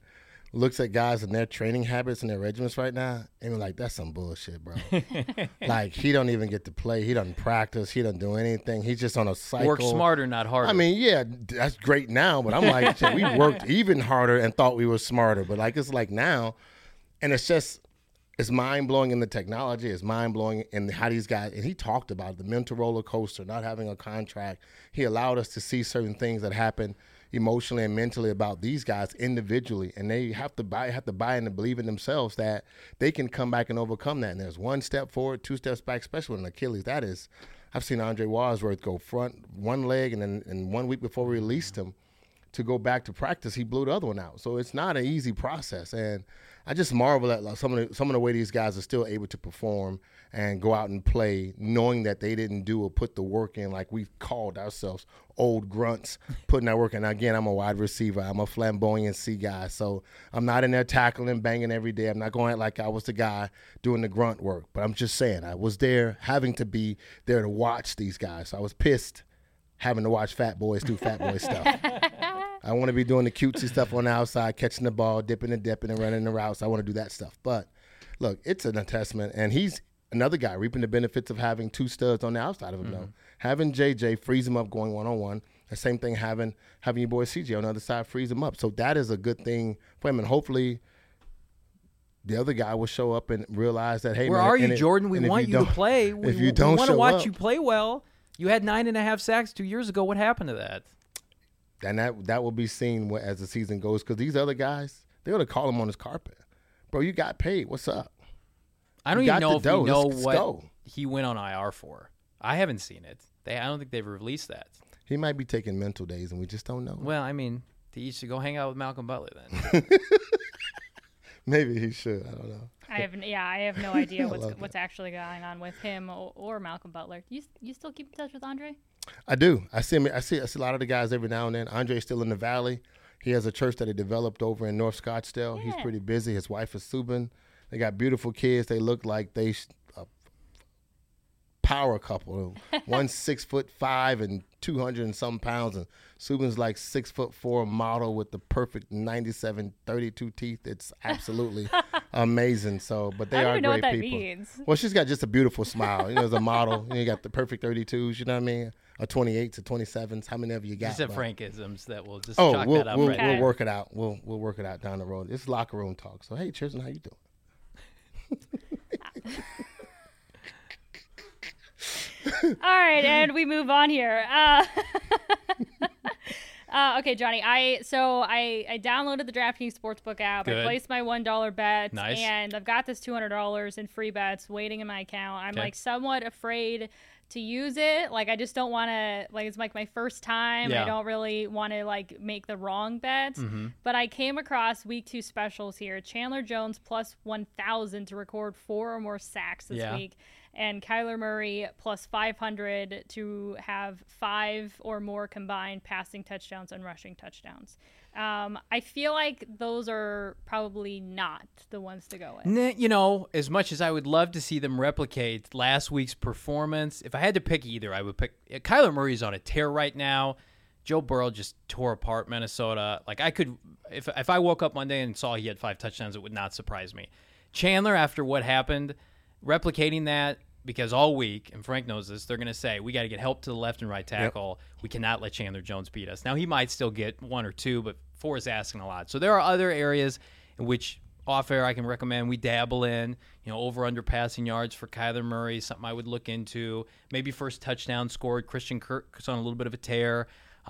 looks at guys and their training habits and their regimens right now and we're like, that's some bullshit, bro. Like, he don't even get to play. He doesn't practice. He doesn't do anything. He's just on a cycle. Work smarter, not harder. I mean, yeah, that's great now, but I'm like, shit, we worked even harder and thought we were smarter. But, like, it's like now, and it's just, it's mind-blowing in the technology. It's mind-blowing in how these guys, and he talked about it, the mental roller coaster, not having a contract. He allowed us to see certain things that happen emotionally and mentally about these guys individually, and they have to buy have to buy in and believe in themselves that they can come back and overcome that. And there's one step forward, two steps back, especially with an Achilles. That is, I've seen Andre Wadsworth go front one leg, and then and one week before we released him to go back to practice, he blew the other one out. So it's not an easy process, and I just marvel at like, some of the, some of the way these guys are still able to perform and go out and play, knowing that they didn't do or put the work in like we called ourselves old grunts, putting that work in. Now, again, I'm a wide receiver. I'm a flamboyancy guy, so I'm not in there tackling and banging every day. I'm not going like I was the guy doing the grunt work, but I'm just saying I was there having to be there to watch these guys. So I was pissed having to watch fat boys do fat boy stuff. I want to be doing the cutesy stuff on the outside, catching the ball, dipping and dipping and running the routes. I want to do that stuff. But, look, it's an testament, and he's another guy reaping the benefits of having two studs on the outside of him, mm-hmm. though. Having J J frees him up going one-on-one. The same thing having having your boy C J on the other side frees him up. So that is a good thing for him, and hopefully the other guy will show up and realize that, hey, where man, are you, it, Jordan? We want you, you to play. We, if you don't we want to watch up, you play well. You had nine and a half sacks two years ago. What happened to that? And that that will be seen as the season goes, because these other guys, they're going to call him on his carpet. Bro, you got paid. What's up? I don't you even know if dough. we know Let's what go. he went on I R for. I haven't seen it. They, I don't think they've released that. He might be taking mental days, and we just don't know. Well, I mean, he should go hang out with Malcolm Butler then. Maybe he should. I don't know. I have yeah, I have no idea what's what's actually going on with him or, or Malcolm Butler. You you still keep in touch with Andre? I do. I see him. I see. I see a lot of the guys every now and then. Andre's still in the Valley. He has a church that he developed over in North Scottsdale. Yeah. He's pretty busy. His wife is Subin. They got beautiful kids. They look like they a power couple. One's six foot five and two hundred and some pounds, and Subin's like six foot four model with the perfect ninety-seven thirty-two teeth. It's absolutely amazing. So, but they I don't are even know great what that people. means. Well, she's got just a beautiful smile. You know, as a model, you, know, you got the perfect thirty-twos. You know what I mean? Or twenty-eights or twenty-sevens. How many of you got? Just have but- Frankisms that will just Oh, chalk we'll that up we'll, right we'll there. work it out. We'll we'll work it out down the road. It's locker room talk. So hey, Tristan, how you doing? All right, and we move on here. Uh, uh, okay, Johnny. I so I, I downloaded the DraftKings Sportsbook app. Good. I placed my one dollar bet, Nice. and I've got this two hundred dollars in free bets waiting in my account. I'm Okay. like somewhat afraid to use it. Like I just don't want to. Like it's like my first time. Yeah. I don't really want to like make the wrong bet. Mm-hmm. But I came across week two specials here. Chandler Jones plus one thousand to record four or more sacks this Yeah. week. And Kyler Murray plus five hundred to have five or more combined passing touchdowns and rushing touchdowns. Um, I feel like those are probably not the ones to go with. Nah, you know, as much as I would love to see them replicate last week's performance, if I had to pick either, I would pick Kyler Murray's on a tear right now. Joe Burrow just tore apart Minnesota. Like I could, if if I woke up Monday and saw he had five touchdowns, it would not surprise me. Chandler, after what happened, replicating that, because all week, and Frank knows this, they're going to say, we got to get help to the left and right tackle. Yep. We cannot let Chandler Jones beat us. Now, he might still get one or two, but four is asking a lot. So there are other areas in which off-air I can recommend we dabble in, you know, over-under passing yards for Kyler Murray, something I would look into. Maybe first touchdown scored. Christian Kirk's on a little bit of a tear.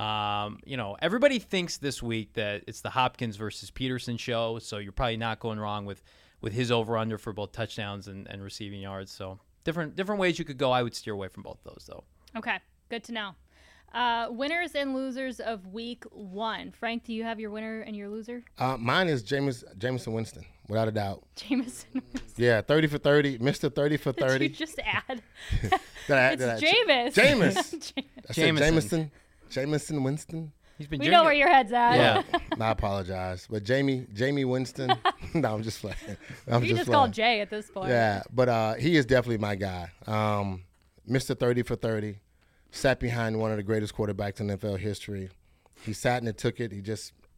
Um, you know, everybody thinks this week that it's the Hopkins versus Peterson show, so you're probably not going wrong with, with his over-under for both touchdowns and, and receiving yards. So different different ways you could go. I would steer away from both those, though. Okay, good to know. Uh, winners and losers of week one. Frank, do you have your winner and your loser? Uh, mine is Jameis, Jameson Winston, without a doubt. Jameson Winston. Yeah, thirty for thirty, Mister thirty for thirty. Did you just add? Did I add- did I- it's Jameis. Jameis. I said Jameson. Jameson. Jameson Winston. He's been We drinking. know where your head's at. Yeah. I apologize, but Jamie, Jamie Winston. No, I'm just playing. I'm You just just playing. call Jay at this point. Yeah, but uh, he is definitely my guy. Um, Mister thirty for thirty, sat behind one of the greatest quarterbacks in N F L history. He sat and it took it. He just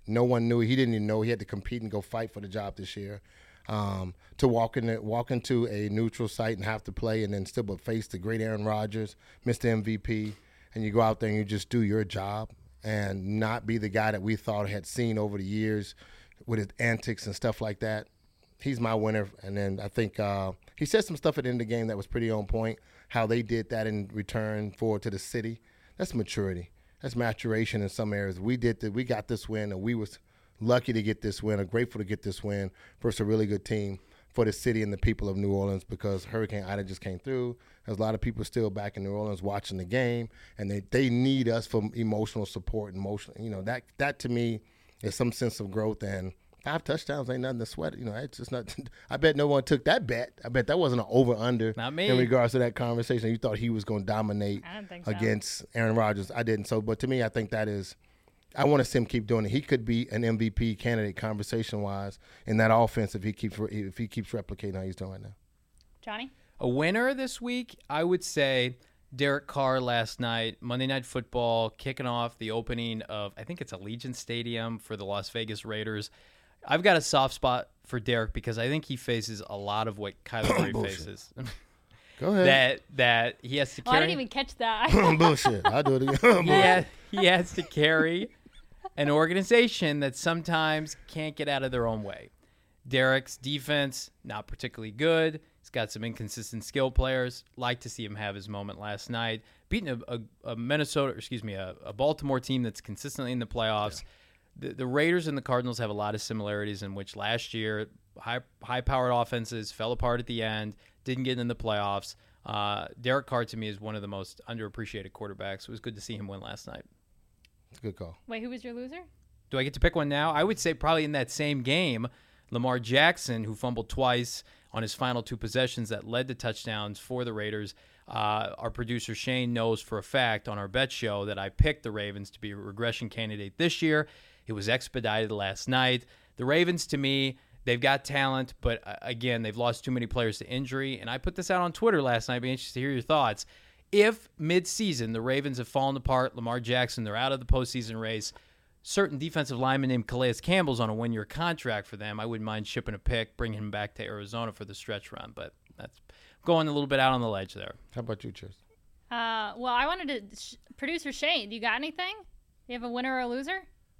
no one knew. He didn't even know he had to compete and go fight for the job this year. Um, to walk in, walk into a neutral site and have to play, and then still but face the great Aaron Rodgers, Mister M V P, and you go out there and you just do your job and not be the guy that we thought had seen over the years with his antics and stuff like that. He's my winner. And then I think uh, he said some stuff at the end of the game that was pretty on point, how they did that in return for to the city. That's maturity. That's maturation in some areas. We did that. We got this win, and we was lucky to get this win, or grateful to get this win versus a really good team for the city and the people of New Orleans, because Hurricane Ida just came through. There's a lot of people still back in New Orleans watching the game, and they, they need us for emotional support. Emotional, you know, that that to me is some sense of growth. And five touchdowns ain't nothing to sweat. You know, it's just not. I bet no one took that bet. I bet that wasn't an over under. Not me. In regards to that conversation, you thought he was going to dominate I don't think so. against Aaron Rodgers. I didn't. So, but to me, I think that is. I want to see him keep doing it. He could be an M V P candidate conversation wise in that offense if he keeps if he keeps replicating how he's doing right now. Johnny? A winner this week, I would say Derek Carr last night, Monday Night Football, kicking off the opening of, I think it's Allegiant Stadium for the Las Vegas Raiders. I've got a soft spot for Derek because I think he faces a lot of what Kyler Murray faces. Go ahead. That that he has to Oh, I carry. didn't even catch that. Bullshit. I'll do it again. he, has, he has to carry an organization that sometimes can't get out of their own way. Derek's defense, not particularly good. He's got some inconsistent skill players. Like to see him have his moment last night. Beating a, a, a Minnesota, excuse me, a, a Baltimore team that's consistently in the playoffs. Yeah. The, the Raiders and the Cardinals have a lot of similarities in which last year high, high-powered offenses fell apart at the end, didn't get in the playoffs. Uh, Derek Carr, to me, is one of the most underappreciated quarterbacks. It was good to see him win last night. Good call. Wait, who was your loser? Do I get to pick one now? I would say probably in that same game, Lamar Jackson, who fumbled twice on his final two possessions that led to touchdowns for the Raiders. Uh, our producer Shane knows for a fact on our bet show that I picked the Ravens to be a regression candidate this year. It was expedited last night. The Ravens, to me, they've got talent, but uh, again, they've lost too many players to injury. And I put this out on Twitter last night. I'd be interested to hear your thoughts. If mid-season the Ravens have fallen apart, Lamar Jackson, they're out of the postseason race, certain defensive lineman named Calais Campbell's on a one-year contract for them, I wouldn't mind shipping a pick, bringing him back to Arizona for the stretch run. But that's going a little bit out on the ledge there. How about you, Chris? Uh, well, I wanted to sh- producer Shane. Do you got anything? You have a winner or a loser?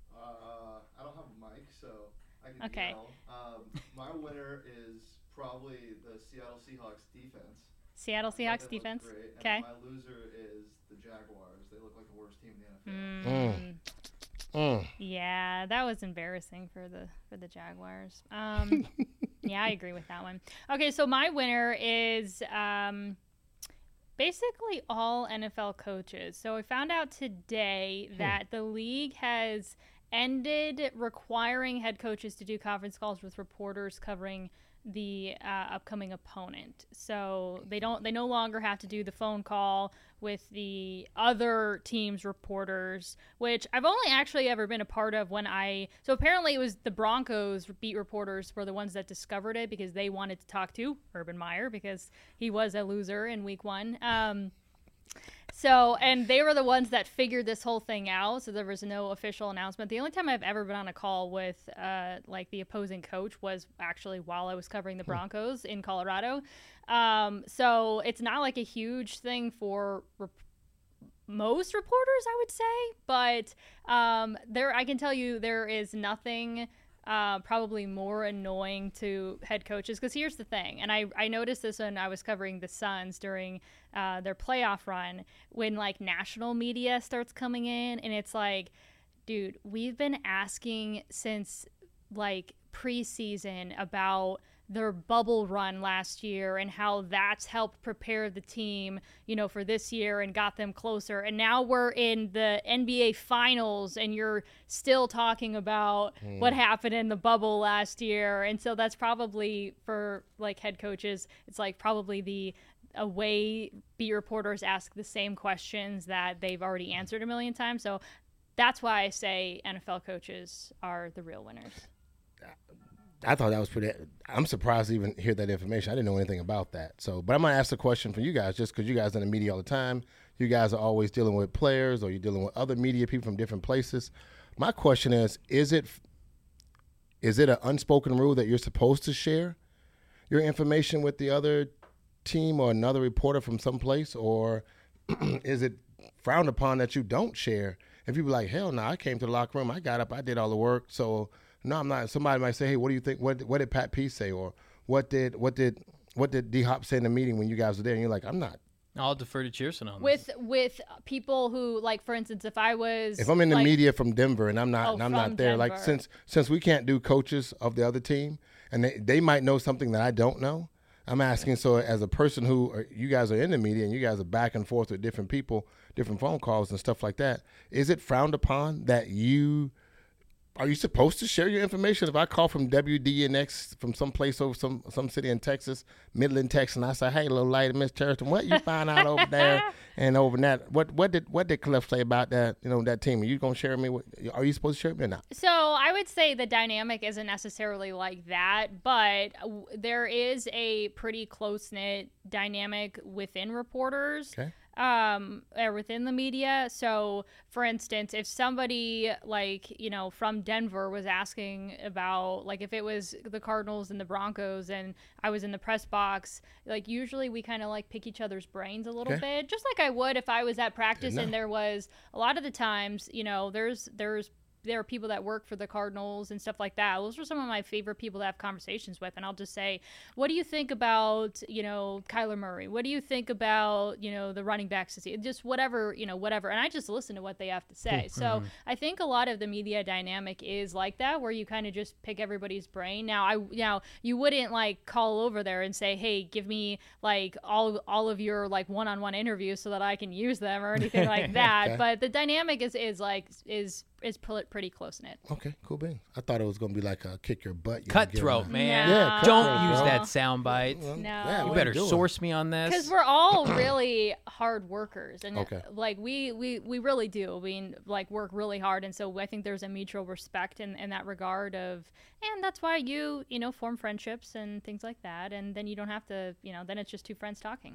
Uh, I don't have a mic, so I can Okay. yell. Um, my winner is probably the Seattle Seahawks defense. Seattle I thought Seahawks they looked defense. great. And Okay. my loser is the Jaguars. They look like the worst team in the N F L. Mm. Mm. Yeah, that was embarrassing for the for the Jaguars. Um, yeah, I agree with that one. Okay, so my winner is um, basically all N F L coaches. So I found out today that the league has ended requiring head coaches to do conference calls with reporters covering the uh, upcoming opponent. So they don't they no longer have to do the phone call with the other team's reporters, which I've only actually ever been a part of when I so apparently it was the Broncos beat reporters were the ones that discovered it because they wanted to talk to Urban Meyer because he was a loser in week one. Um So, and they were the ones that figured this whole thing out. So there was no official announcement. The only time I've ever been on a call with, uh, like the opposing coach was actually while I was covering the Broncos in Colorado. Um, so it's not like a huge thing for rep- most reporters, I would say. But um, there, I can tell you, there is nothing uh, probably more annoying to head coaches. Because here's the thing, and I, I noticed this when I was covering the Suns during uh, their playoff run, when like national media starts coming in, and it's like, dude, we've been asking since like preseason about their bubble run last year and how that's helped prepare the team, you know, for this year and got them closer. And now we're in the N B A finals and you're still talking about mm. what happened in the bubble last year. And so that's probably for like head coaches, it's like probably the a way beat reporters ask the same questions that they've already answered a million times. So that's why I say N F L coaches are the real winners. I thought that was pretty. I'm surprised to even hear that information. I didn't know anything about that. So, but I'm gonna ask a question for you guys, just because you guys are in the media all the time. You guys are always dealing with players, or you're dealing with other media people from different places. my question is: Is it is it an unspoken rule that you're supposed to share your information with the other team or another reporter from someplace, or is it frowned upon that you don't share? If you be like, hell no, I came to the locker room, I got up, I did all the work, so no, I'm not. Somebody might say, hey, what do you think? What what did Pat P say, or what did what did what did D Hop say in the meeting when you guys were there? And you're like, I'm not. I'll defer to Cheerson on with this. with people who, like, for instance, if I was if I'm in the like, media from Denver and I'm not oh, and I'm from not there, Denver. like since since we can't do coaches of the other team, and they, they might know something that I don't know. I'm asking, so as a person who are, you guys are in the media and you guys are back and forth with different people, different phone calls and stuff like that, is it frowned upon that you are you supposed to share your information? If I call from W D N X from some place over some some city in Texas, Midland, Texas, and I say, "Hey, little lady, Miss Charlton, what you find out over there and over that? What what did what did Cliff say about that? You know, that team? Are you gonna share me? With, are you supposed to share with me or not?" So I would say the dynamic isn't necessarily like that, but w- there is a pretty close knit dynamic within reporters. Okay. Um, or within the media. So, for instance, if somebody like, you know, from Denver was asking about, like, if it was the Cardinals and the Broncos and I was in the press box, like, usually we kind of like pick each other's brains a little Okay. bit, just like I would if I was at practice Good and enough. there was a lot of the times, you know, there's, there's, there are people that work for the Cardinals and stuff like that. Those are some of my favorite people to have conversations with. And I'll just say, what do you think about, you know, Kyler Murray? What do you think about, you know, the running backs? Just whatever, you know, whatever. And I just listen to what they have to say. So Mhm. I think a lot of the media dynamic is like that, where you kind of just pick everybody's brain. Now, I, now you wouldn't like call over there and say, hey, give me like all, all of your like one-on-one interviews so that I can use them or anything like that. Okay. But the dynamic is, is like, is, is pl- pretty close knit. Okay, cool bean. I thought it was gonna be like a kick your butt. you know, give Cutthroat, them man. No. Yeah, Don't cutthroat, use bro. that soundbite. Well, No. yeah, You what better you doing? source me on this. Because we're all really hard workers, and Okay. like we, we we really do. I mean, like work really hard, and so I think there's a mutual respect in, in that regard of, and that's why you you know form friendships and things like that, and then you don't have to you know then it's just two friends talking.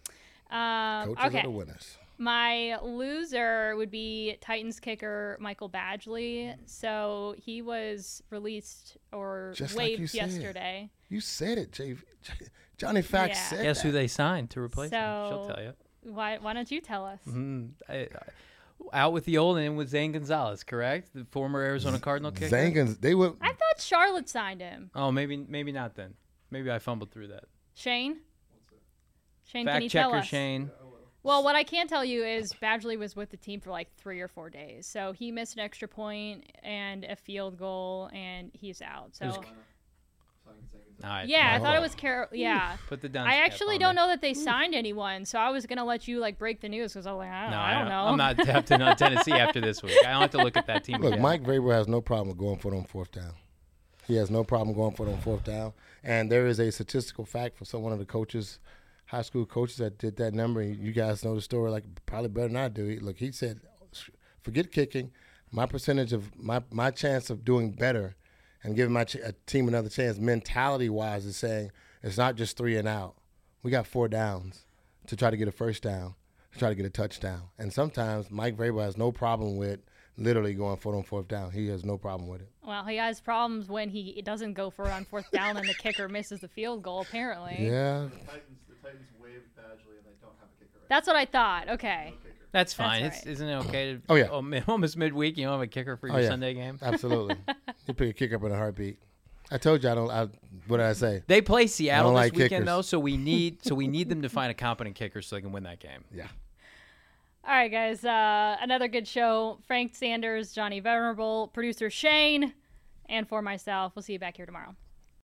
Um, Coaches okay. are the winners. My loser would be Titans kicker Michael Badgley. So he was released or Just like waived you said. yesterday. You said it, J- J- Johnny Fax Yeah. said Guess that. who they signed to replace him? She'll So- tell you. Why why don't you tell us? Mhm. I, I, out with the old and in with Zane Gonzalez, correct? The former Arizona Cardinal kicker. Zangans, they were. I thought Charlotte signed him. Oh, maybe maybe not then. Maybe I fumbled through that. Shane? Shane, can Fact you tell checker us? Shane. Well, what I can tell you is Badgley was with the team for like three or four days. So he missed an extra point and a field goal, and he's out. So, All right. yeah, I Oh. thought it was Carol. Yeah. Put the Dunce I cap actually on don't me. know that they signed anyone, so I was going to let you like break the news because I was like, I don't, No, I don't know. I'm not tapped in on Tennessee after this week. I don't have to look at that team. Look, again. Mike Vrabel has no problem going for it on fourth down. He has no problem going for it on fourth down. And there is a statistical fact for some one of the coaches, high school coaches that did that number. And you guys know the story like probably better than I do. He- Look, he said, forget kicking. My percentage of my my chance of doing better and giving my ch- a team another chance, mentality wise, is saying it's not just three and out. We got four downs to try to get a first down, to try to get a touchdown. And sometimes Mike Vrabel has no problem with literally going for it on fourth down. He has no problem with it. Well, he has problems when he doesn't go for it on fourth down and the kicker misses the field goal, apparently. Yeah. The Titans, the Titans waived Badgley and they don't have a kicker right That's what I thought. Okay. now. No kicker. That's fine. That's It's, right. isn't it okay to? Oh, yeah. Oh, mi- almost midweek, you don't have a kicker for your Oh, yeah. Sunday game. Absolutely. You pick a kick up in a heartbeat. I told you I don't. I, what did I say? They play Seattle I this don't like weekend kickers. though, so we need so we need them to find a competent kicker so they can win that game. Yeah. All right, guys. Uh, another good show. Frank Sanders, Johnny Venerable, producer Shane, and for myself. We'll see you back here tomorrow.